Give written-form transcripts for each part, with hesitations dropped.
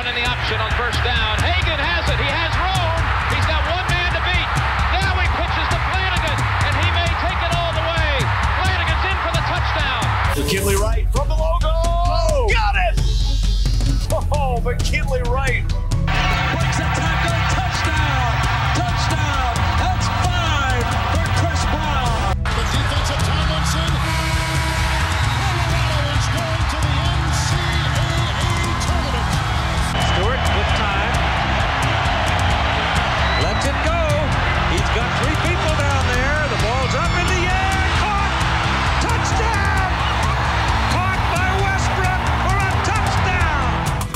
in the option on first down. Hagan has it. He has room. He's got one man to beat. Now he pitches to Flanagan, and he may take it all the way. Flanagan's in for the touchdown. McKinley Wright from the logo. Oh, got it! Oh, McKinley Wright. Breaks a tackle. Touchdown. Touchdown. That's 5 for Chris Brown. The defensive Tomlinson. Colorado is going to the NCAA tournament. Stewart with time. Lets it go. He's got 3 people down there. The ball's up in the air. Caught. Touchdown. Caught by Westbrook for a touchdown.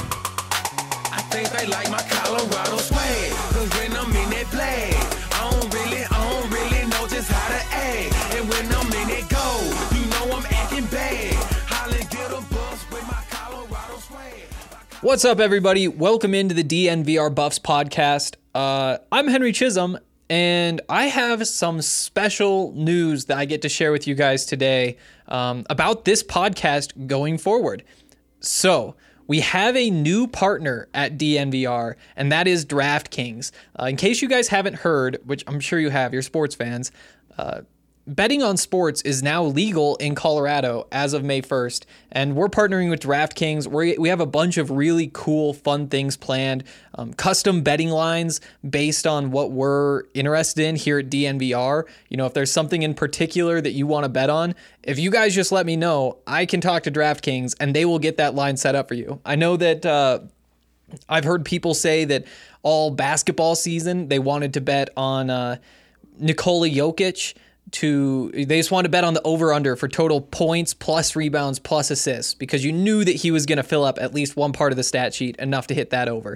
I think they like my Colorado swag, 'cause when I'm in that play, I don't really know just how to act. And when I'm in it go, you know I'm acting bad. Holland get a bus with my Colorado swag. What's up, everybody? Welcome into the DNVR Buffs podcast. I'm Henry Chisholm, and I have some special news that I get to share with you guys today about this podcast going forward. So, we have a new partner at DNVR, and that is DraftKings. In case you guys haven't heard, which I'm sure you have, you're sports fans, betting on sports is now legal in Colorado as of May 1st, and we're partnering with DraftKings. We have a bunch of really cool, fun things planned, custom betting lines based on what we're interested in here at DNVR. You know, if there's something in particular that you want to bet on, if you guys just let me know, I can talk to DraftKings and they will get that line set up for you. I know that I've heard people say that all basketball season they wanted to bet on Nikola Jokic. They just wanted to bet on the over-under for total points plus rebounds plus assists because you knew that he was going to fill up at least one part of the stat sheet enough to hit that over.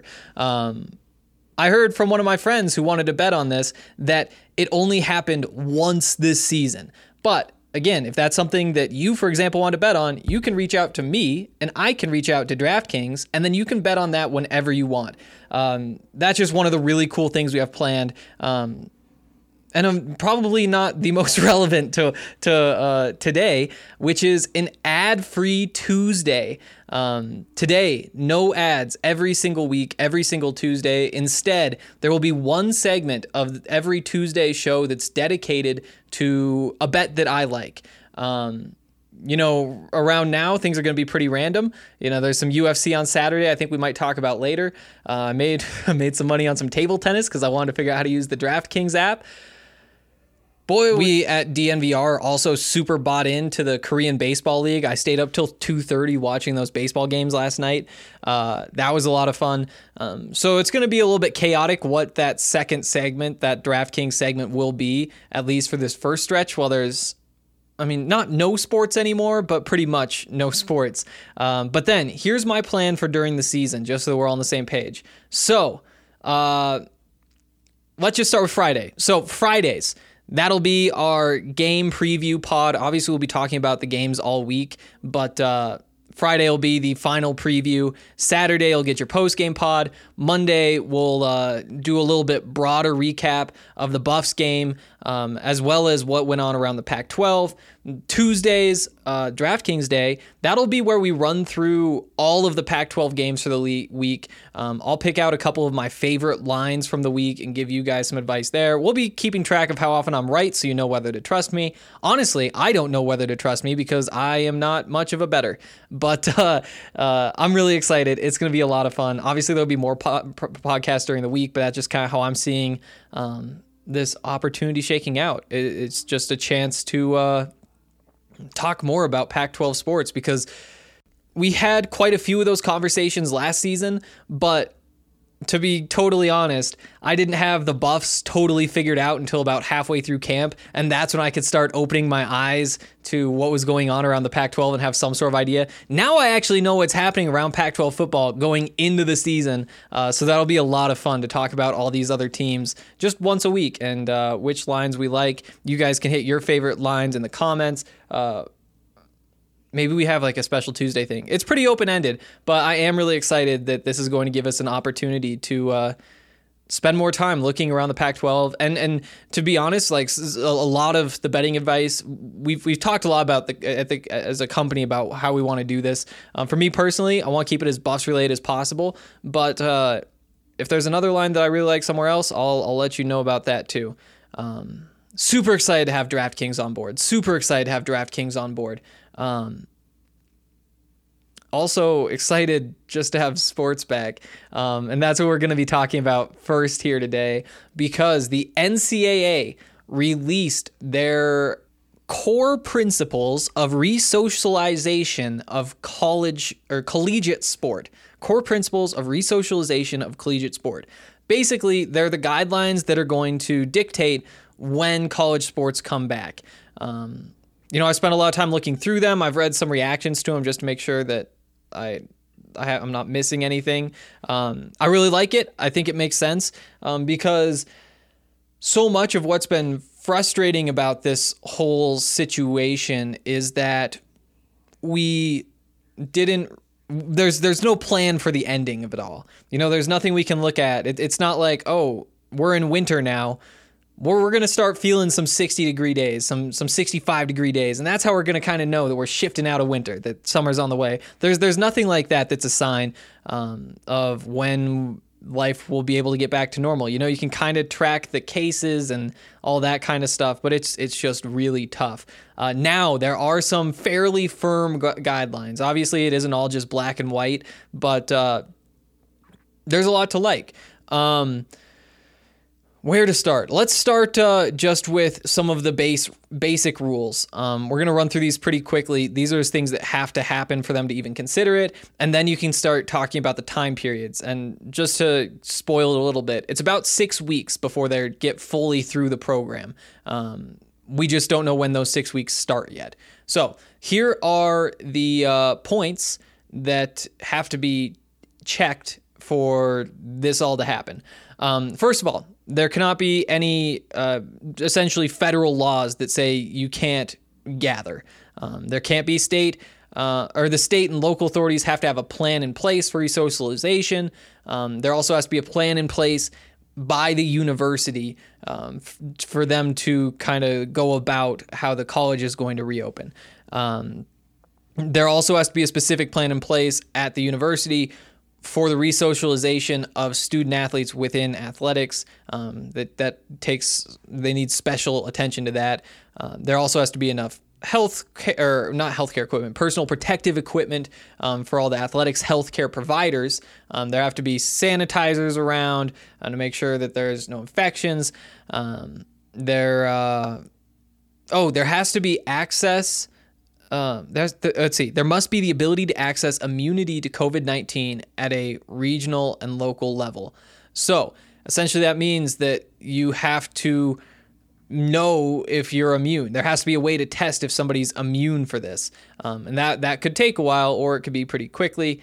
I heard from one of my friends who wanted to bet on this that it only happened once this season. But again, if that's something that you, for example, want to bet on, you can reach out to me and I can reach out to DraftKings, and then you can bet on that whenever you want. That's just one of the really cool things we have planned. And I'm probably not the most relevant to today, which is an ad-free Tuesday. Today, no ads every single week, every single Tuesday. Instead, there will be one segment of every Tuesday show that's dedicated to a bet that I like. You know, around now, things are going to be pretty random. You know, there's some UFC on Saturday I think we might talk about later. I made some money on some table tennis because I wanted to figure out how to use the DraftKings app. Boy, we at DNVR also super bought into the Korean Baseball League. I stayed up till 2:30 watching those baseball games last night. That was a lot of fun. So it's going to be a little bit chaotic what that second segment, that DraftKings segment will be, at least for this first stretch, while there's, not no sports anymore, but pretty much no sports. But then here's my plan for during the season, just so we're all on the same page. So let's just start with Friday. So Fridays. That'll be our game preview pod. Obviously, we'll be talking about the games all week, but Friday will be the final preview. Saturday, you'll get your post-game pod. Monday, we'll do a little bit broader recap of the Buffs game, as well as what went on around the Pac-12. Tuesdays, DraftKings Day, that'll be where we run through all of the Pac-12 games for the week. I'll pick out a couple of my favorite lines from the week and give you guys some advice there. We'll be keeping track of how often I'm right, so you know whether to trust me. Honestly, I don't know whether to trust me because I am not much of a bettor. But I'm really excited. It's going to be a lot of fun. Obviously, there'll be more podcasts during the week, but that's just kind of how I'm seeing this opportunity shaking out. It's just a chance to talk more about Pac-12 sports because we had quite a few of those conversations last season, but to be totally honest, I didn't have the Buffs totally figured out until about halfway through camp, and that's when I could start opening my eyes to what was going on around the Pac-12 and have some sort of idea. Now I actually know what's happening around Pac-12 football going into the season, so that'll be a lot of fun to talk about all these other teams just once a week and which lines we like. You guys can hit your favorite lines in the comments. Maybe we have like a special Tuesday thing. It's pretty open-ended, but I am really excited that this is going to give us an opportunity to spend more time looking around the Pac-12. And to be honest, like a lot of the betting advice, we've talked a lot about as a company about how we want to do this. For me personally, I want to keep it as Buffs related as possible. But if there's another line that I really like somewhere else, I'll let you know about that too. Super excited to have DraftKings on board. Also excited just to have sports back. And that's what we're going to be talking about first here today, because the NCAA released their core principles of resocialization of collegiate sport. Core principles of resocialization of collegiate sport. Basically, they're the guidelines that are going to dictate when college sports come back. I spent a lot of time looking through them. I've read some reactions to them just to make sure that I'm not missing anything. I really like it. I think it makes sense because so much of what's been frustrating about this whole situation is that there's no plan for the ending of it all. There's nothing we can look at. It's not like, oh, we're in winter now. We're going to start feeling some 60-degree days, some 65-degree days, and that's how we're going to kind of know that we're shifting out of winter, that summer's on the way. There's nothing like that that's a sign of when life will be able to get back to normal. You can kind of track the cases and all that kind of stuff, but it's just really tough. Now, there are some fairly firm guidelines. Obviously, it isn't all just black and white, but there's a lot to like. Where to start? Let's start just with some of the basic rules. We're going to run through these pretty quickly. These are things that have to happen for them to even consider it. And then you can start talking about the time periods. And just to spoil it a little bit, it's about 6 weeks before they get fully through the program. We just don't know when those 6 weeks start yet. So here are the points that have to be checked for this all to happen. First of all, there cannot be any essentially federal laws that say you can't gather. There can't be the state and local authorities have to have a plan in place for resocialization. There also has to be a plan in place by the university for them to kind of go about how the college is going to reopen. There also has to be a specific plan in place at the university for the resocialization of student athletes within athletics. They need special attention to that. There also has to be enough personal protective equipment for all the athletics healthcare providers. There have to be sanitizers around to make sure that there's no infections. There has to be access. There must be the ability to access immunity to COVID-19 at a regional and local level. So essentially that means that you have to know if you're immune. There has to be a way to test if somebody's immune for this. And that could take a while, or it could be pretty quickly.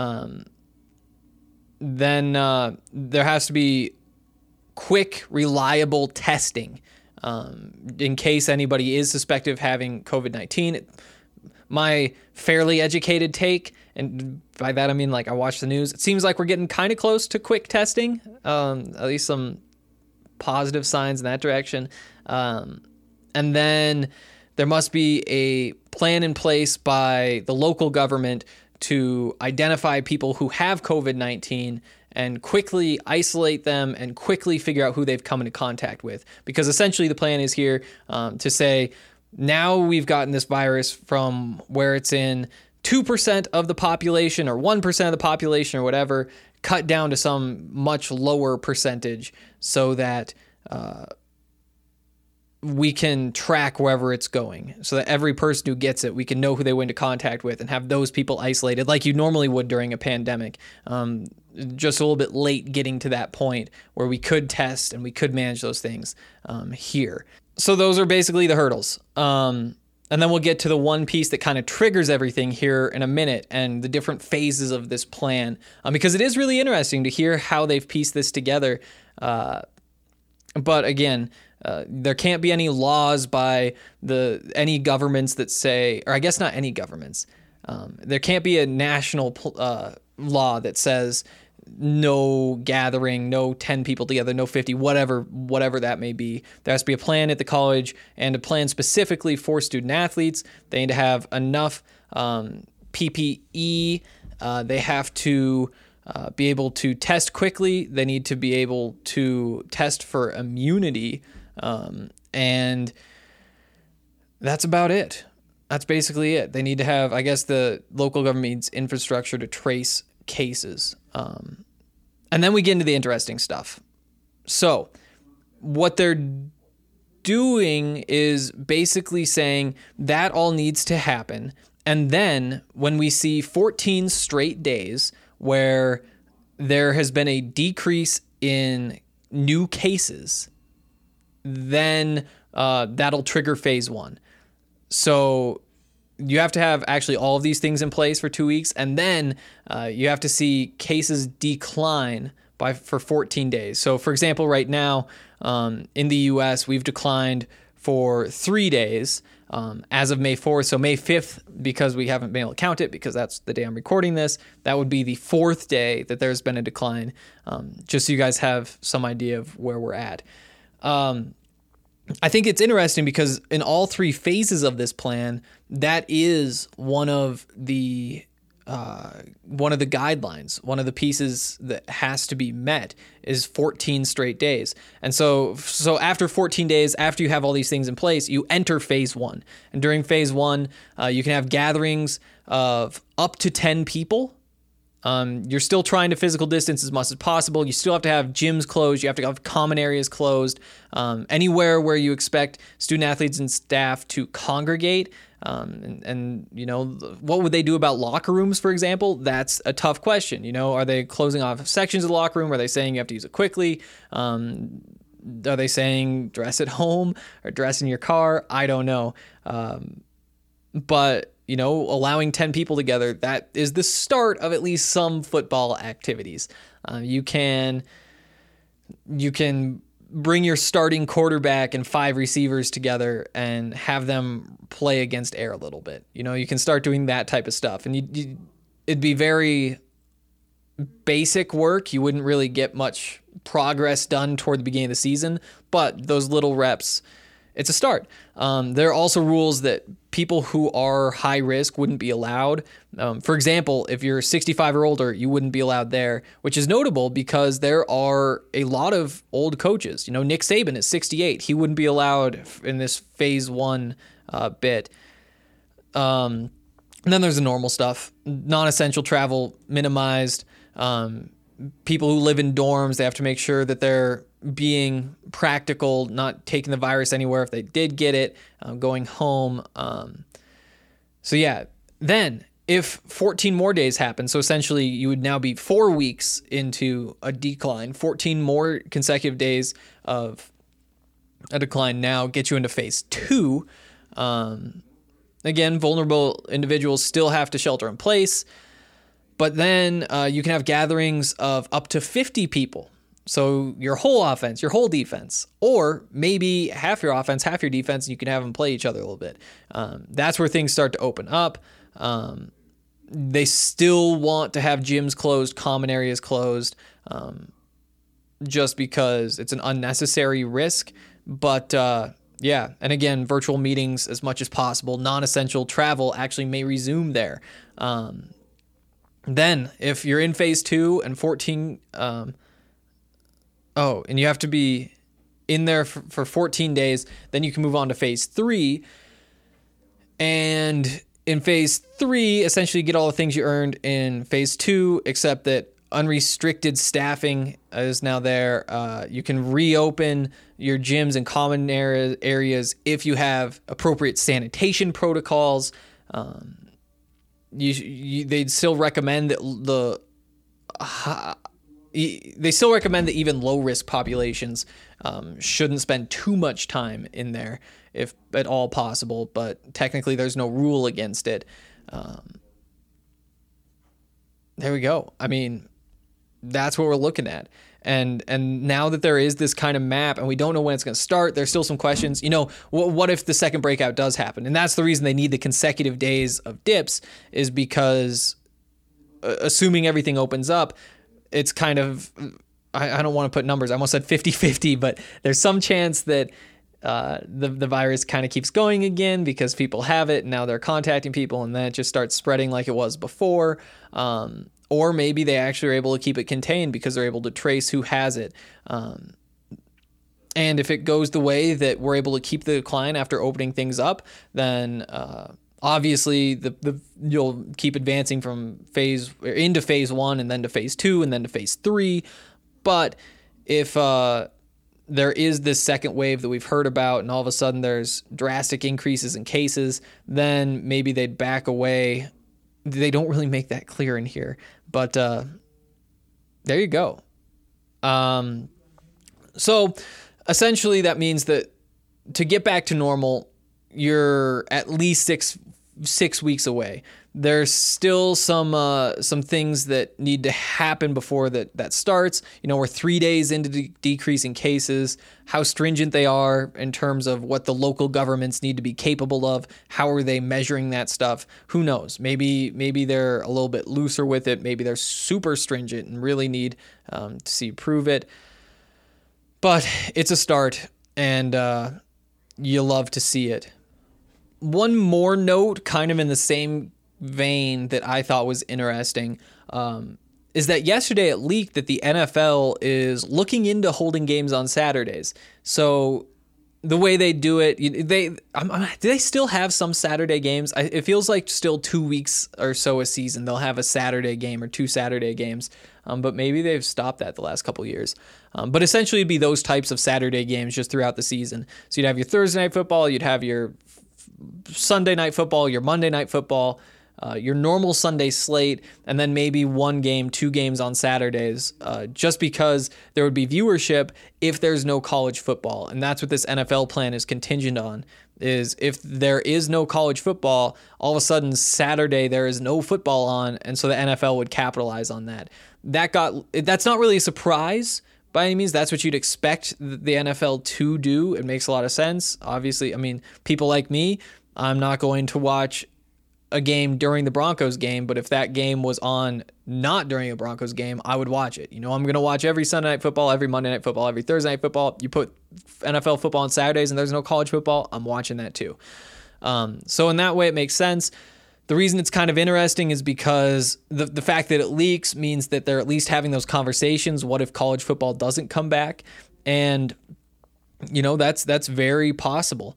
Then there has to be quick, reliable testing in case anybody is suspected of having COVID-19. My fairly educated take, and by that I mean like I watch the news, it seems like we're getting kind of close to quick testing, at least some positive signs in that direction. And then there must be a plan in place by the local government to identify people who have COVID-19 and quickly isolate them and quickly figure out who they've come into contact with. Because essentially the plan is here to say, now we've gotten this virus from where it's in 2% of the population or 1% of the population or whatever, cut down to some much lower percentage so that we can track wherever it's going, so that every person who gets it, we can know who they went into contact with and have those people isolated like you normally would during a pandemic. Just a little bit late getting to that point where we could test and we could manage those things here. So those are basically the hurdles. And then we'll get to the one piece that kind of triggers everything here in a minute and the different phases of this plan, because it is really interesting to hear how they've pieced this together. But again, there can't be any laws by any governments that say, or I guess not any governments. There can't be a national law that says no gathering, no 10 people together, no 50, whatever that may be. There has to be a plan at the college, and a plan specifically for student athletes. They need to have enough PPE. They have to be able to test quickly. They need to be able to test for immunity. And that's about it. That's basically it. They need to have, I guess, the local government needs infrastructure to trace cases. And then we get into the interesting stuff. So what they're doing is basically saying that all needs to happen. And then when we see 14 straight days where there has been a decrease in new cases, then that'll trigger phase 1. So you have to have actually all of these things in place for 2 weeks, and then you have to see cases decline for 14 days. So, for example, right now in the U.S., we've declined for 3 days as of May 4th. So May 5th, because we haven't been able to count it, because that's the day I'm recording this, that would be the 4th day that there's been a decline, just so you guys have some idea of where we're at. I think it's interesting because in all 3 phases of this plan, that is one of the guidelines, one of the pieces that has to be met is 14 straight days. And so after 14 days, after you have all these things in place, you enter phase 1. And during phase 1, you can have gatherings of up to 10 people. You're still trying to physical distance as much as possible. You still have to have gyms closed. You have to have common areas closed. Anywhere where you expect student athletes and staff to congregate. And you know, what would they do about locker rooms, for example? That's a tough question. You know, are they closing off sections of the locker room? Are they saying you have to use it quickly? Are they saying dress at home or dress in your car? I don't know. But you know, allowing 10 people together, that is the start of at least some football activities. You can bring your starting quarterback and 5 receivers together and have them play against air a little bit. You know, you can start doing that type of stuff. And it'd be very basic work. You wouldn't really get much progress done toward the beginning of the season, but those little reps, it's a start. There are also rules that people who are high risk wouldn't be allowed. For example, if you're 65 or older, you wouldn't be allowed there, which is notable because there are a lot of old coaches. You know, Nick Saban is 68. He wouldn't be allowed in this phase 1 bit. And then there's the normal stuff. Non-essential travel minimized. People who live in dorms, they have to make sure that they're being practical, not taking the virus anywhere if they did get it, going home. So yeah, then if 14 more days happen, so essentially you would now be 4 weeks into a decline, 14 more consecutive days of a decline now get you into phase 2. Again, vulnerable individuals still have to shelter in place, but then you can have gatherings of up to 50 people. So your whole offense, your whole defense, or maybe half your offense, half your defense, and you can have them play each other a little bit. That's where things start to open up. They still want to have gyms closed, common areas closed, just because it's an unnecessary risk. But yeah, and again, virtual meetings as much as possible. Non-essential travel actually may resume there. Then if you're in phase 2 and 14... and you have to be in there for 14 days. Then you can move on to phase 3. And in phase 3, essentially you get all the things you earned in phase 2, except that unrestricted staffing is now there. You can reopen your gyms and common areas if you have appropriate sanitation protocols. They'd still recommend that they still recommend that even low-risk populations shouldn't spend too much time in there, if at all possible, but technically there's no rule against it. There we go. I mean, that's what we're looking at. And now that there is this kind of map and we don't know when it's going to start, there's still some questions. You know, what if the second breakout does happen? And that's the reason they need the consecutive days of dips, is because assuming everything opens up, it's kind of, I don't want to put numbers. I almost said 50-50, but there's some chance that the virus kind of keeps going again because people have it and now they're contacting people and then it just starts spreading like it was before. Or maybe they actually are able to keep it contained because they're able to trace who has it. And if it goes the way that we're able to keep the decline after opening things up, then obviously you'll keep advancing from into phase 1 and then to phase 2 and then to phase 3. But if there is this second wave that we've heard about and all of a sudden there's drastic increases in cases, then maybe they'd back away. They don't really make that clear in here, but there you go. So essentially that means that to get back to normal, you're at least six weeks away. There's still some things that need to happen before that starts. We're 3 days into decreasing cases, how stringent they are in terms of what the local governments need to be capable of. How are they measuring that stuff? Who knows? Maybe they're a little bit looser with it. Maybe they're super stringent and really need to see prove it. But it's a start, and you love to see it. One more note, kind of in the same vein that I thought was interesting, is that yesterday it leaked that the NFL is looking into holding games on Saturdays. So the way they do it, do they still have some Saturday games? It feels like still 2 weeks or so a season they'll have a Saturday game or 2 Saturday games, but maybe they've stopped that the last couple of years. But essentially it'd be those types of Saturday games just throughout the season. So you'd have your Thursday night football, you'd have your Sunday night football, your Monday night football, your normal Sunday slate, and then maybe 1 game, 2 games on Saturdays, just because there would be viewership if there's no college football. And that's what this NFL plan is contingent on, is if there is no college football, all of a sudden Saturday there is no football on, and so the NFL would capitalize on that. That's not really a surprise by any means. That's what you'd expect the NFL to do. It makes a lot of sense. Obviously, I mean, people like me, I'm not going to watch a game during the Broncos game, but if that game was on not during a Broncos game, I would watch it. I'm going to watch every Sunday night football, every Monday night football, every Thursday night football. You put NFL football on Saturdays and there's no college football, I'm watching that too. So in that way, it makes sense. The reason it's kind of interesting is because the fact that it leaks means that they're at least having those conversations. What if college football doesn't come back? And, that's very possible.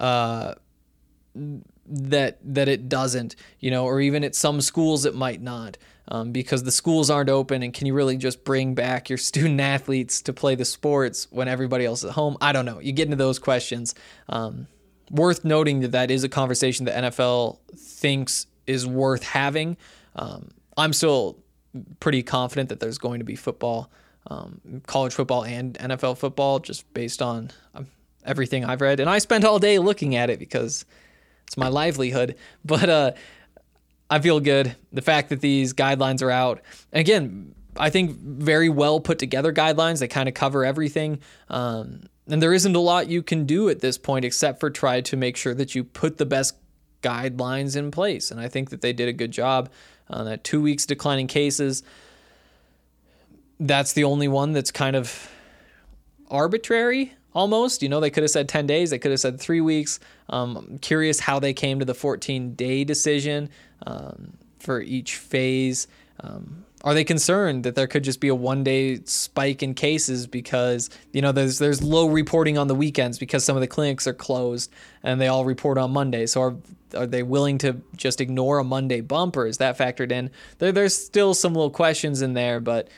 That it doesn't, or even at some schools it might not, because the schools aren't open, and can you really just bring back your student athletes to play the sports when everybody else is at home? I don't know. You get into those questions. Worth noting that is a conversation the NFL thinks is worth having. I'm still pretty confident that there's going to be football, college football and NFL football, just based on everything I've read. And I spent all day looking at it because it's my livelihood, but I feel good. The fact that these guidelines are out, and again, I think very well put together guidelines. They kind of cover everything, and there isn't a lot you can do at this point except for try to make sure that you put the best guidelines in place. And I think that they did a good job. That 2 weeks declining cases, that's the only one that's kind of arbitrary. Almost, they could have said 10 days. They could have said 3 weeks. I'm curious how they came to the 14-day decision for each phase. Are they concerned that there could just be a 1-day spike in cases because, there's low reporting on the weekends because some of the clinics are closed and they all report on Monday. So are they willing to just ignore a Monday bump, or is that factored in? There's still some little questions in there, but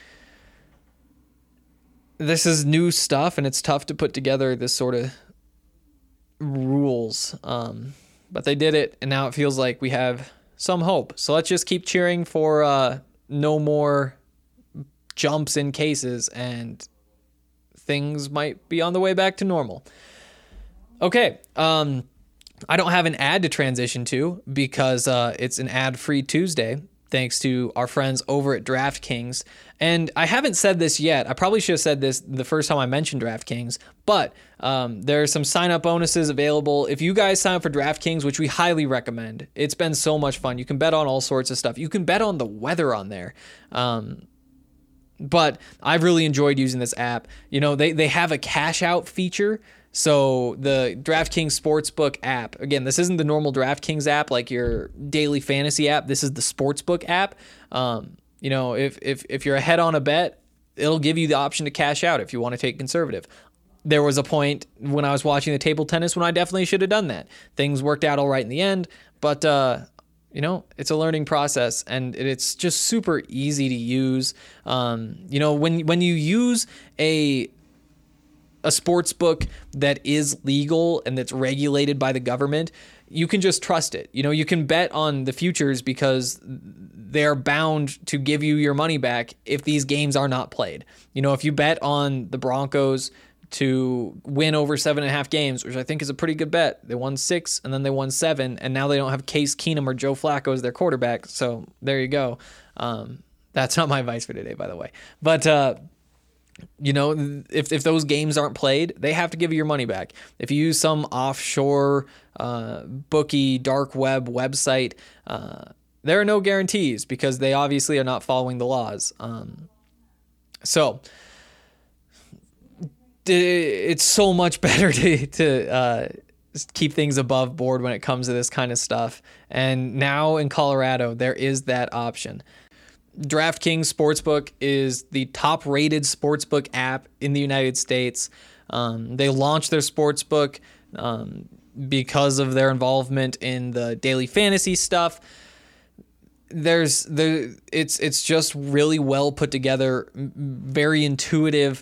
this is new stuff, and it's tough to put together this sort of rules. But they did it, and now it feels like we have some hope. So let's just keep cheering for no more jumps in cases, and things might be on the way back to normal. Okay, I don't have an ad to transition to because it's an ad-free Tuesday, thanks to our friends over at DraftKings. And I haven't said this yet. I probably should have said this the first time I mentioned DraftKings, but there are some sign-up bonuses available. If you guys sign up for DraftKings, which we highly recommend, it's been so much fun. You can bet on all sorts of stuff. You can bet on the weather on there. But I've really enjoyed using this app. You know, they have a cash out feature. So the DraftKings Sportsbook app, again, this isn't the normal DraftKings app like your daily fantasy app. This is the Sportsbook app. You know, if you're ahead on a bet, it'll give you the option to cash out if you want to take conservative. There was a point when I was watching the table tennis when I definitely should have done that. Things worked out all right in the end, but you know, it's a learning process, and it's just super easy to use. You know, when you use a sports book that is legal and that's regulated by the government, you can just trust it. You know, you can bet on the futures because they're bound to give you your money back if these games are not played. You know, if you bet on the Broncos to win over 7.5 games, which I think is a pretty good bet. They won 6 and then they won 7, and now they don't have Case Keenum or Joe Flacco as their quarterback. So there you go. That's not my advice for today, by the way. But you know, if those games aren't played, they have to give you your money back. If you use some offshore bookie dark web website, there are no guarantees because they obviously are not following the laws. So it's so much better to keep things above board when it comes to this kind of stuff. And now in Colorado, there is that option. DraftKings Sportsbook is the top-rated sportsbook app in the United States. They launched their sportsbook because of their involvement in the daily fantasy stuff. It's just really well put together, very intuitive,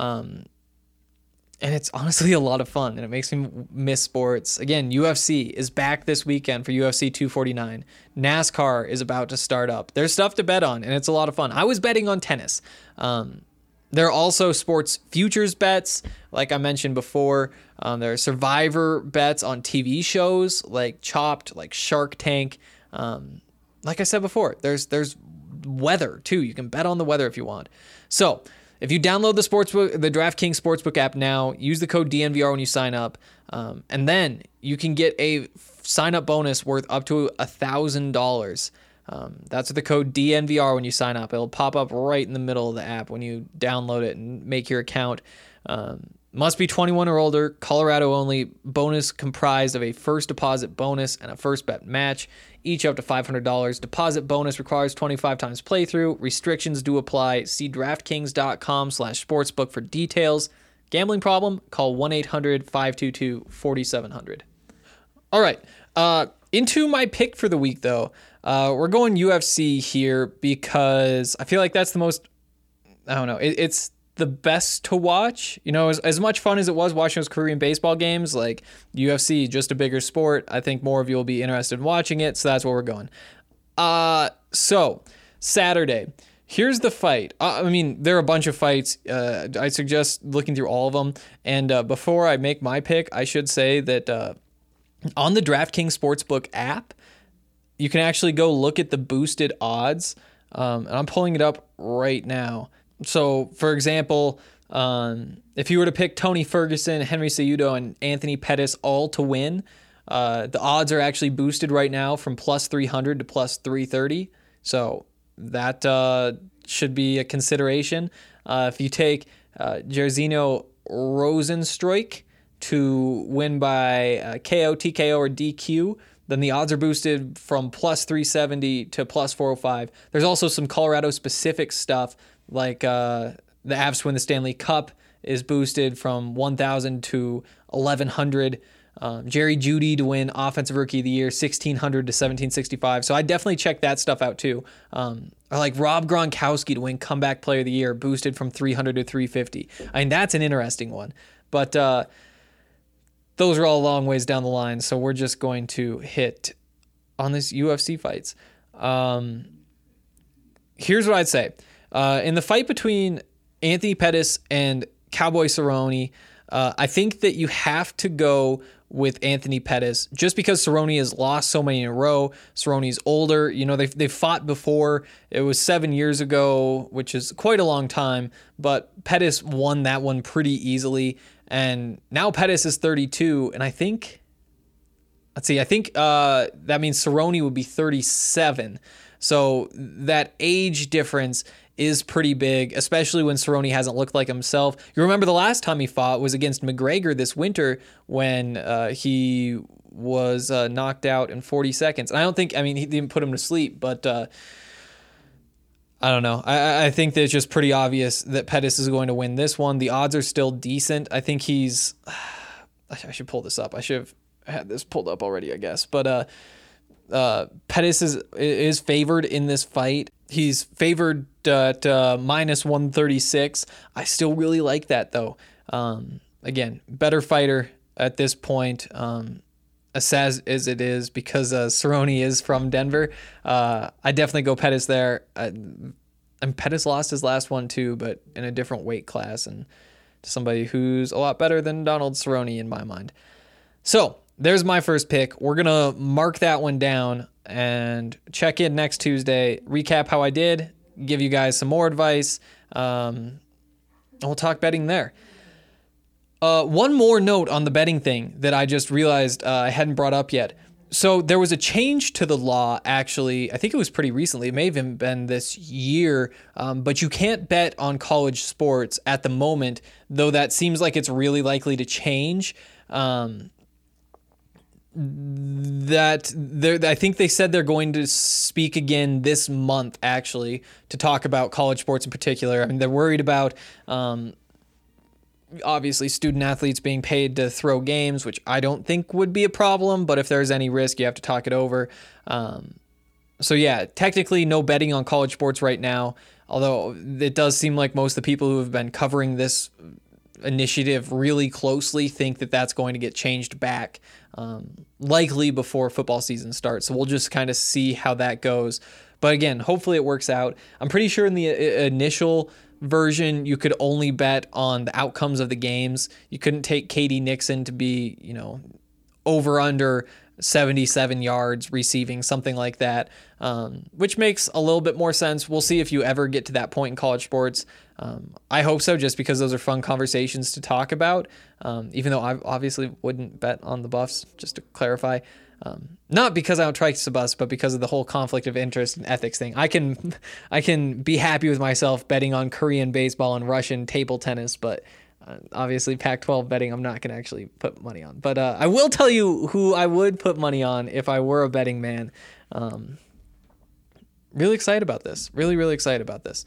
and it's honestly a lot of fun, and it makes me miss sports. Again, UFC is back this weekend for UFC 249. NASCAR is about to start up. There's stuff to bet on, and it's a lot of fun. I was betting on tennis. There are also sports futures bets, like I mentioned before. There are survivor bets on TV shows like Chopped, like Shark Tank. Like I said before, there's weather too. You can bet on the weather if you want. So if you download the DraftKings Sportsbook app now, use the code DNVR when you sign up, and then you can get a sign-up bonus worth up to $1,000. That's the code DNVR when you sign up. It'll pop up right in the middle of the app when you download it and make your account. Must be 21 or older, Colorado only. Bonus comprised of a first deposit bonus and a first bet match, each up to $500. Deposit bonus requires 25 times playthrough. Restrictions do apply. See DraftKings.com/sportsbook for details. Gambling problem? Call 1-800-522-4700. All right. Into my pick for the week, though. We're going UFC here because I feel like that's the most, I don't know, it's the best to watch. You know, as much fun as it was watching those Korean baseball games, like UFC, just a bigger sport. I think more of you will be interested in watching it, so that's where we're going. So, Saturday, here's the fight. I mean, there are a bunch of fights. I suggest looking through all of them. And before I make my pick, I should say that on the DraftKings Sportsbook app, you can actually go look at the boosted odds. And I'm pulling it up right now. So, for example, if you were to pick Tony Ferguson, Henry Cejudo, and Anthony Pettis all to win, the odds are actually boosted right now from plus 300 to plus 330. So that should be a consideration. If you take Jairzinho Rozenstruik to win by KO, TKO, or DQ, then the odds are boosted from plus 370 to plus 405. There's also some Colorado-specific stuff, like the Avs to win the Stanley Cup is boosted from 1,000 to 1,100. Jerry Jeudy to win Offensive Rookie of the Year, 1,600 to 1,765. So I definitely check that stuff out too. Or like Rob Gronkowski to win Comeback Player of the Year, boosted from 300 to 350. I mean, that's an interesting one. But those are all a long ways down the line, so we're just going to hit on this UFC fights. Here's what I'd say. In the fight between Anthony Pettis and Cowboy Cerrone, I think that you have to go with Anthony Pettis just because Cerrone has lost so many in a row. Cerrone's older. You know, they've fought before. It was 7 years ago, which is quite a long time, but Pettis won that one pretty easily. And now Pettis is 32, and I think that means Cerrone would be 37. So that age difference is pretty big, especially when Cerrone hasn't looked like himself. You remember the last time he fought was against McGregor this winter when he was knocked out in 40 seconds. And I don't think, I mean, he didn't put him to sleep, but I don't know. I think that it's just pretty obvious that Pettis is going to win this one. The odds are still decent. I think he's, I should pull this up. I should have had this pulled up already, I guess. But Pettis is favored in this fight. He's favored at minus 136. I still really like that, though. Again, better fighter at this point, as sad as it is, because Cerrone is from Denver. I definitely go Pettis there. And Pettis lost his last one, too, but in a different weight class and to somebody who's a lot better than Donald Cerrone in my mind. So there's my first pick. We're going to mark that one down and check in next Tuesday, recap how I did, give you guys some more advice, and we'll talk betting there. One more note on the betting thing that I just realized I hadn't brought up yet. So there was a change to the law, actually. I think it was pretty recently. It may have even been this year, but you can't bet on college sports at the moment, though that seems like it's really likely to change. I think they said they're going to speak again this month, actually, to talk about college sports in particular. I mean, they're worried about, obviously, student athletes being paid to throw games, which I don't think would be a problem, but if there's any risk, you have to talk it over. So yeah, technically no betting on college sports right now, although it does seem like most of the people who have been covering this initiative really closely think that that's going to get changed back, likely before football season starts. So we'll just kind of see how that goes. But again, hopefully it works out. I'm pretty sure in the initial version, you could only bet on the outcomes of the games. You couldn't take KD Nixon to be, over under 77 yards receiving, something like that, which makes a little bit more sense. We'll see if you ever get to that point in college sports. I hope so, just because those are fun conversations to talk about, even though I obviously wouldn't bet on the Buffs, just to clarify. Not because I don't trust the Buffs, but because of the whole conflict of interest and ethics thing. I can be happy with myself betting on Korean baseball and Russian table tennis, but obviously Pac-12 betting I'm not going to actually put money on. But I will tell you who I would put money on if I were a betting man. Really excited about this. Really, really excited about this.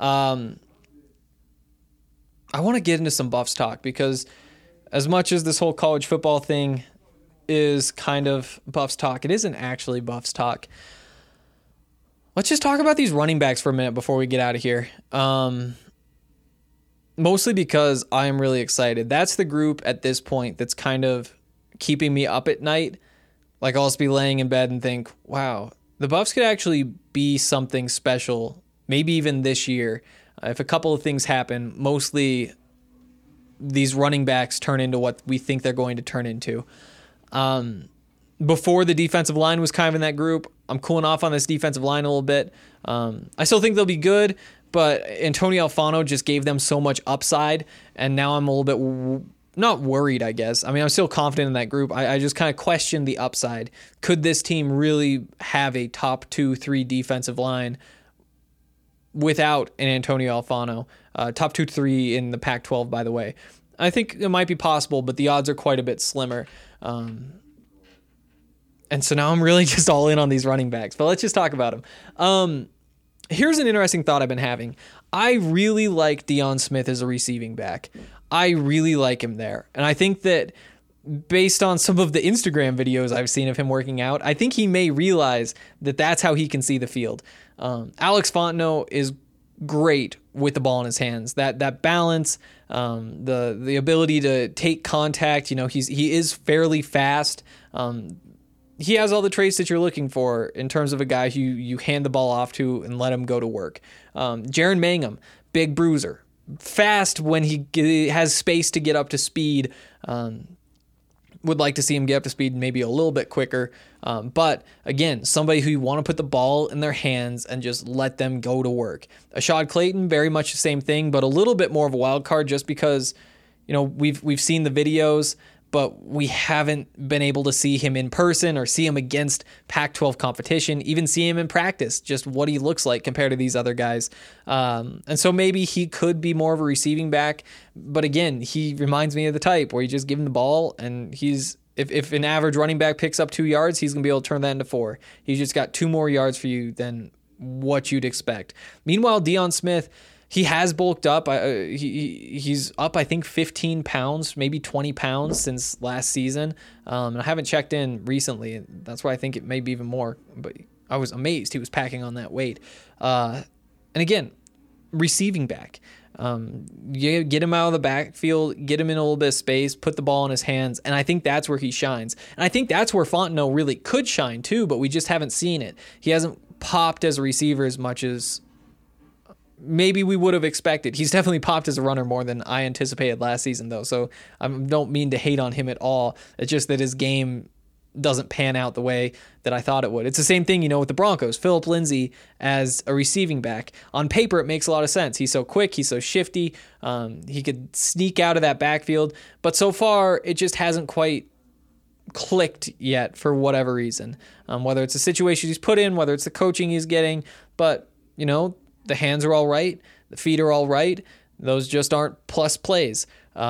I want to get into some Buffs talk, because as much as this whole college football thing is kind of Buffs talk, it isn't actually Buffs talk. Let's just talk about these running backs for a minute before we get out of here. Mostly because I am really excited. That's the group at this point that's kind of keeping me up at night. Like, I'll just be laying in bed and think, wow, the Buffs could actually be something special, maybe even this year, if a couple of things happen. Mostly these running backs turn into what we think they're going to turn into. Before, the defensive line was kind of in that group. I'm cooling off on this defensive line a little bit. I still think they'll be good, but Antonio Alfano just gave them so much upside, and now I'm a little bit not worried, I guess. I mean, I'm still confident in that group. I just kind of question the upside. Could this team really have a top 2-3 defensive line without an Antonio Alfano? Top 2-3 in the Pac-12, by the way. I think it might be possible, but the odds are quite a bit slimmer. And so now I'm really just all in on these running backs. But let's just talk about them. Here's an interesting thought I've been having. I really like Deion Smith as a receiving back. I really like him there. And I think that based on some of the Instagram videos I've seen of him working out, I think he may realize that that's how he can see the field. Alex Fontenot is great with the ball in his hands. That balance, the ability to take contact, he is fairly fast. He has all the traits that you're looking for in terms of a guy who you hand the ball off to and let him go to work. Jaron Mangum, big bruiser, fast when he has space to get up to speed. Would like to see him get up to speed maybe a little bit quicker. But again, somebody who you want to put the ball in their hands and just let them go to work. Ashad Clayton, very much the same thing, but a little bit more of a wild card just because, we've seen the videos, but we haven't been able to see him in person or see him against Pac-12 competition, even see him in practice, just what he looks like compared to these other guys. And so maybe he could be more of a receiving back. But again, he reminds me of the type where you just give him the ball and if an average running back picks up 2 yards, he's going to be able to turn that into 4. He's just got 2 more yards for you than what you'd expect. Meanwhile, Deion Smith, he has bulked up. He's up, I think, 15 pounds, maybe 20 pounds since last season. And I haven't checked in recently. That's why I think it may be even more. But I was amazed he was packing on that weight. And again, receiving back. You get him out of the backfield, get him in a little bit of space, put the ball in his hands, and I think that's where he shines. And I think that's where Fontenot really could shine too, but we just haven't seen it. He hasn't popped as a receiver as much as maybe we would have expected. He's definitely popped as a runner more than I anticipated last season, though. So I don't mean to hate on him at all. It's just that his game doesn't pan out the way that I thought it would. It's the same thing, with the Broncos. Phillip Lindsay as a receiving back. On paper, it makes a lot of sense. He's so quick. He's so shifty. He could sneak out of that backfield. But so far, it just hasn't quite clicked yet for whatever reason. Whether it's the situation he's put in, whether it's the coaching he's getting. But, the hands are all right. The feet are all right. Those just aren't plus plays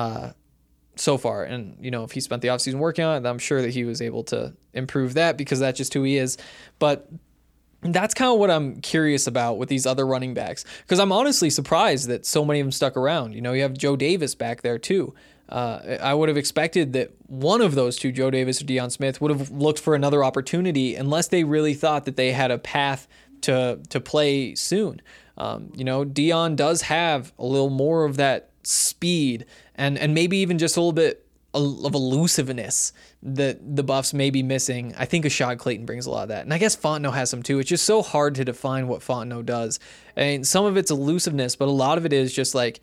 so far. And, if he spent the offseason working on it, I'm sure that he was able to improve that because that's just who he is. But that's kind of what I'm curious about with these other running backs, because I'm honestly surprised that so many of them stuck around. You have Joe Davis back there too. I would have expected that one of those two, Joe Davis or Deion Smith, would have looked for another opportunity unless they really thought that they had a path to play soon. Deion does have a little more of that speed and maybe even just a little bit of elusiveness that the Buffs may be missing. I think Ashad Clayton brings a lot of that. And I guess Fontenot has some too. It's just so hard to define what Fontenot does. And some of it's elusiveness, but a lot of it is just like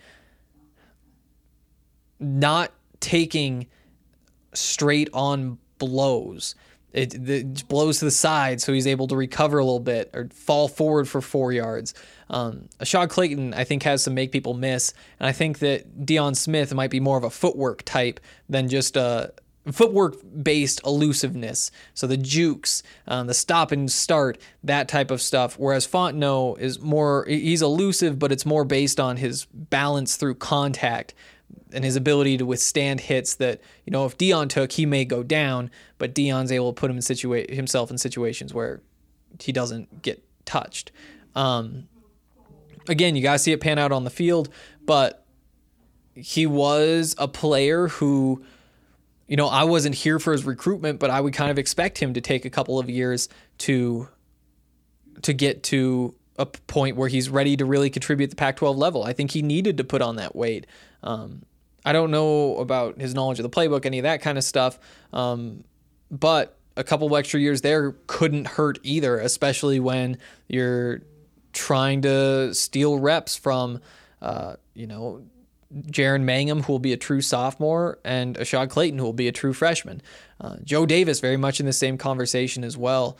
not taking straight on blows. It blows to the side, so he's able to recover a little bit or fall forward for 4 yards. Ashad Clayton, I think, has some make people miss, and I think that Deion Smith might be more of a footwork type than just a footwork-based elusiveness. So the jukes, the stop and start, that type of stuff. Whereas Fontenot is he's elusive, but it's more based on his balance through contact and his ability to withstand hits that, if Deion took, he may go down, but Deion's able to put him in himself in situations where he doesn't get touched. Again, you got to see it pan out on the field, but he was a player who, I wasn't here for his recruitment, but I would kind of expect him to take a couple of years to get to a point where he's ready to really contribute at the Pac-12 level. I think he needed to put on that weight. I don't know about his knowledge of the playbook, any of that kind of stuff, but a couple of extra years there couldn't hurt either, especially when you're trying to steal reps from, Jaren Mangham, who will be a true sophomore, and Ashad Clayton, who will be a true freshman. Joe Davis, very much in the same conversation as well.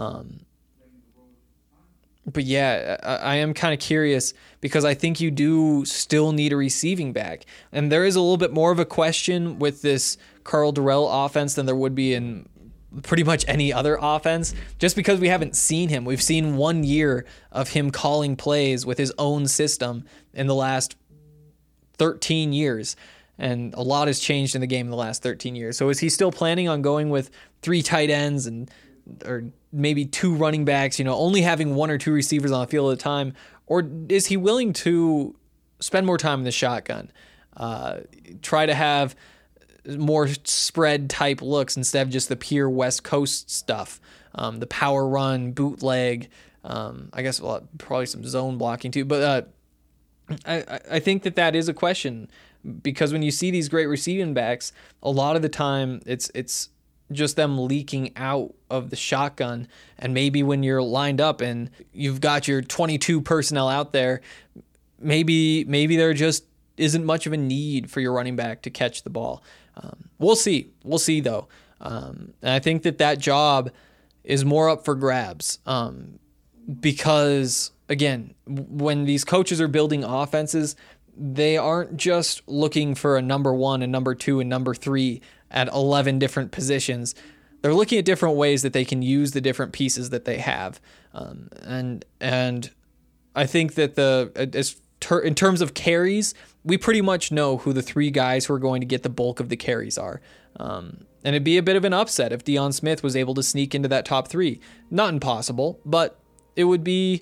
But yeah, I am kind of curious because I think you do still need a receiving back. And there is a little bit more of a question with this Karl Dorrell offense than there would be in pretty much any other offense, just because we haven't seen him. We've seen 1 year of him calling plays with his own system in the last 13 years. And a lot has changed in the game in the last 13 years. So is he still planning on going with 3 tight ends or maybe 2 running backs, only having 1 or 2 receivers on the field at a time? Or is he willing to spend more time in the shotgun, try to have more spread type looks instead of just the pure West Coast stuff, the power run, bootleg, I guess probably some zone blocking too. But I think that is a question, because when you see these great receiving backs, a lot of the time it's just them leaking out of the shotgun. And maybe when you're lined up and you've got your 22 personnel out there, maybe there just isn't much of a need for your running back to catch the ball. We'll see though. And I think that job is more up for grabs. Because again, when these coaches are building offenses, they aren't just looking for a number 1 and number 2 and number 3 at 11 different positions. They're looking at different ways that they can use the different pieces that they have. And I think that in terms of carries, we pretty much know who the 3 guys who are going to get the bulk of the carries are. And it'd be a bit of an upset if Deion Smith was able to sneak into that top 3. Not impossible, but it would be...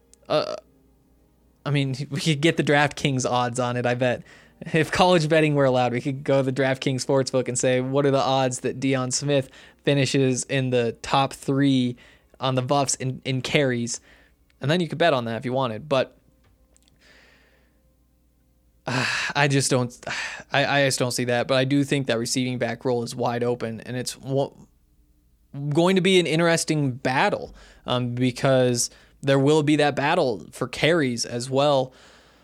we could get the DraftKings odds on it, I bet. If college betting were allowed, we could go to the DraftKings Sportsbook and say, what are the odds that Deion Smith finishes in the top 3 on the Buffs in carries? And then you could bet on that if you wanted. But I just don't see that. But I do think that receiving back role is wide open, and it's going to be an interesting battle because there will be that battle for carries as well.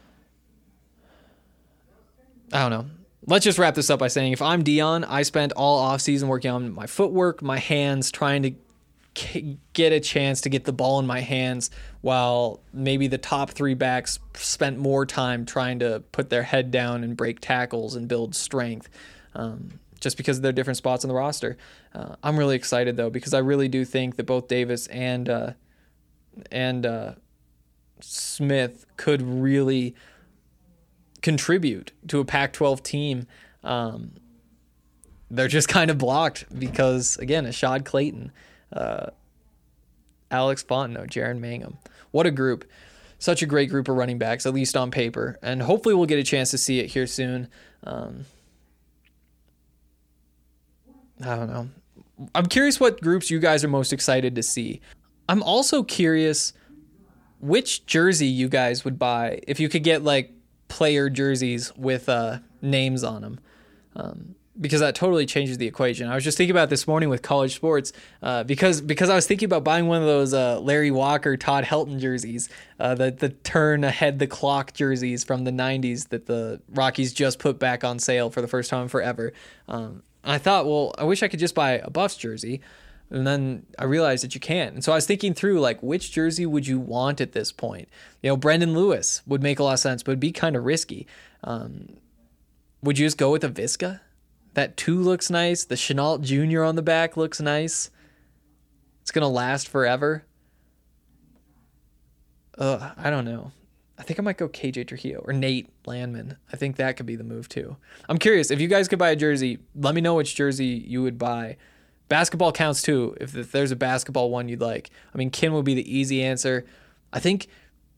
I don't know. Let's just wrap this up by saying if I'm Deion, I spent all offseason working on my footwork, my hands, trying to get a chance to get the ball in my hands, while maybe the top 3 backs spent more time trying to put their head down and break tackles and build strength, just because of their different spots on the roster. I'm really excited, though, because I really do think that both Davis and Smith could really contribute to a Pac-12 team. They're just kind of blocked because, again, Ashad Clayton, Alex Fontenot, Jaron Mangum. What a group. Such a great group of running backs, at least on paper. And hopefully we'll get a chance to see it here soon. I don't know. I'm curious what groups you guys are most excited to see. I'm also curious which jersey you guys would buy if you could get like player jerseys with names on them, because that totally changes the equation. I was just thinking about this morning with college sports because I was thinking about buying one of those Larry Walker, Todd Helton jerseys, the turn ahead the clock jerseys from the 90s that the Rockies just put back on sale for the first time forever. I thought, well, I wish I could just buy a Buffs jersey. And then I realized that you can't. And so I was thinking through, like, which jersey would you want at this point? You know, Brendan Lewis would make a lot of sense, but it'd be kind of risky. Would you just go with a Visca? That 2 looks nice. The Chenault Jr. on the back looks nice. It's going to last forever. I don't know. I think I might go KJ Trujillo or Nate Landman. I think that could be the move too. I'm curious. If you guys could buy a jersey, let me know which jersey you would buy. Basketball counts too, if there's a basketball one you'd like. I mean, Kin would be the easy answer. I think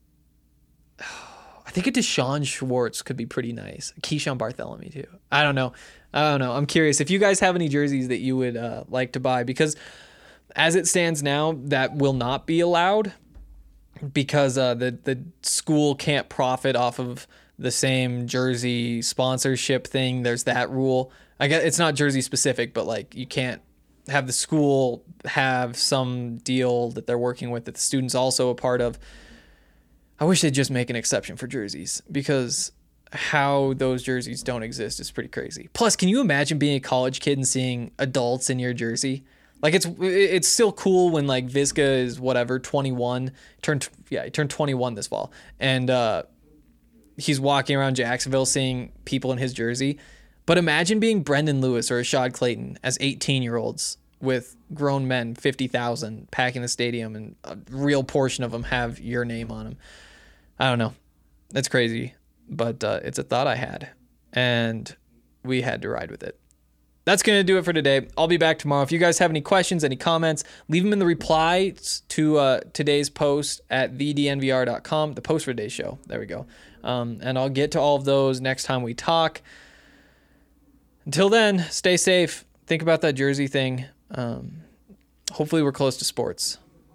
a Deshaun Schwartz could be pretty nice. Keyshawn Bartholomew too. I don't know. I'm curious if you guys have any jerseys that you would like to buy, because as it stands now, that will not be allowed because the school can't profit off of the same jersey sponsorship thing. There's that rule. I guess it's not jersey specific, but like you can't have the school have some deal that they're working with that the student's also a part of. I wish they'd just make an exception for jerseys, because how those jerseys don't exist is pretty crazy. Plus, can you imagine being a college kid and seeing adults in your jersey? Like, it's still cool when, like, Visca is, 21, he turned 21 this fall, and he's walking around Jacksonville seeing people in his jersey. But imagine being Brendan Lewis or Ashad Clayton as 18-year-olds with grown men, 50,000, packing the stadium, and a real portion of them have your name on them. I don't know. That's crazy, but it's a thought I had, and we had to ride with it. That's going to do it for today. I'll be back tomorrow. If you guys have any questions, any comments, leave them in the replies to today's post at thednvr.com, the post for today's show. There we go. And I'll get to all of those next time we talk. Until then, stay safe. Think about that jersey thing. Hopefully we're close to sports.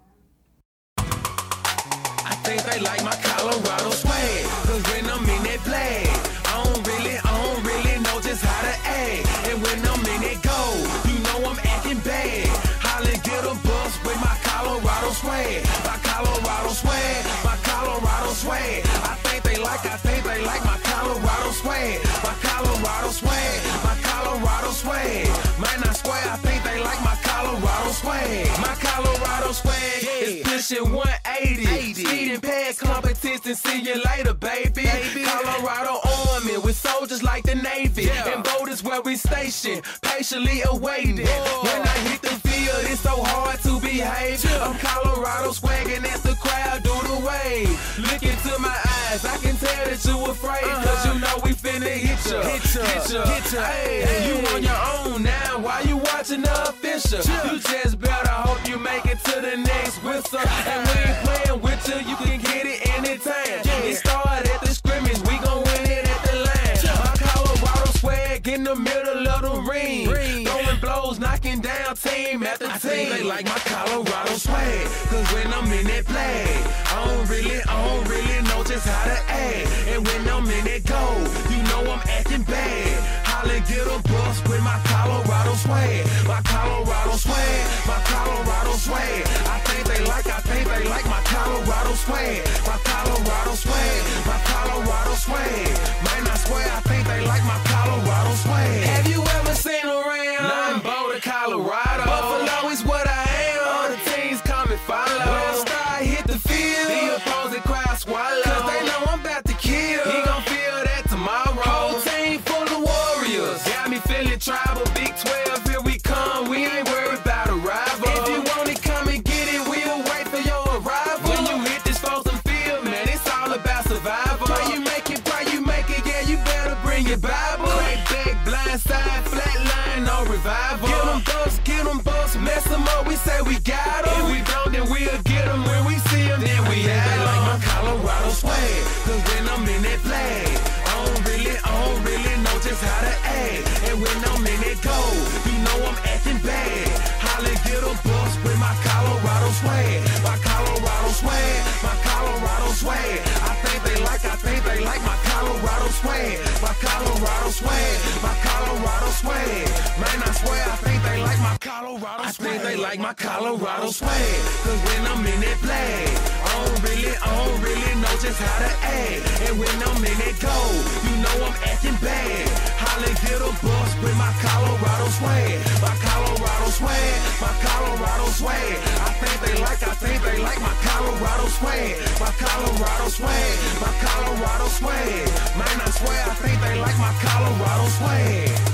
I think they like my Colorado swag, 'cause when I'm in that play, I don't really know just how to act. And when I'm in that go, you know I'm acting bad. Holland get a bus with my Colorado swag. My Colorado swag, my Colorado swag. I think they like my Colorado swag. My Colorado swag, my Colorado swag. Man, I swear I think they like my Colorado swag. My Colorado swag is pushing 180. Speeding past competition, see you later, baby. Colorado Army with soldiers like the Navy. And boat is where we station. Patient patiently awaited. When I hit the field, it's so hard to behave. I'm Colorado swagging as the crowd do the wave. Look into my eyes, I can tell that you afraid. Cause you know we finna hit ya. Hey, you on your own now, why you watching the official? You just better hope you make it to the next whistle. And we ain't playing with you, you can get it anytime. It started at the scrimmage, we gon' win it at the line. My Colorado swag in the middle of the ring. Throwing blows, knocking down team after team. I think they like my Colorado swag, cause when I'm in that play, I don't really know just how to act. And when I'm in that goal, you know I'm acting bad. Holla, get a bus with my Colorado swag. My Colorado swag, my Colorado swag. I think they like my Colorado swag. My Colorado swag, my Colorado swag. Man, I swear I think they like my Colorado swag. Have you ever seen around? Nothing Boulder, Colorado. Buffalo is what I am. All the teams come and follow. When I start hit the field, the opposing crowd swallow. Cause they know I'm about to kill. He gon' feel that tomorrow. Whole team full of warriors. Got me feeling tribal. Big 12, here we come. We ain't worried about a rival. If you want it, come and get it. We'll wait for your arrival. When you hit this frozen field, man, it's all about survival. Pray you make it, yeah, you better bring your Bible. Crack back, blind side, flat line, no revival. Get them bucks, mess them up, we say we got them. If we don't, then we'll get them. When we see them, then we have them. They like my Colorado swag, cause when I'm in that flag, I don't really know just how to act. And when I'm in that goal, you know I'm acting bad. Holla, get a bus with my Colorado swag. My Colorado swag, my Colorado swag. I think they like my Colorado swag. My Colorado swag, my Colorado swag. Man, I swear I think they like my Colorado swag. I think they like my Colorado swag. Cause when I'm in that flag, I don't really know just how to act. And when I'm in that goal, you know I'm acting bad. Holla, get a bus with my Colorado swag. My Colorado swag, my Colorado swag. I think they like my Colorado swag. My Colorado swag, my Colorado swag. Man, I swear I think they like my Colorado swag.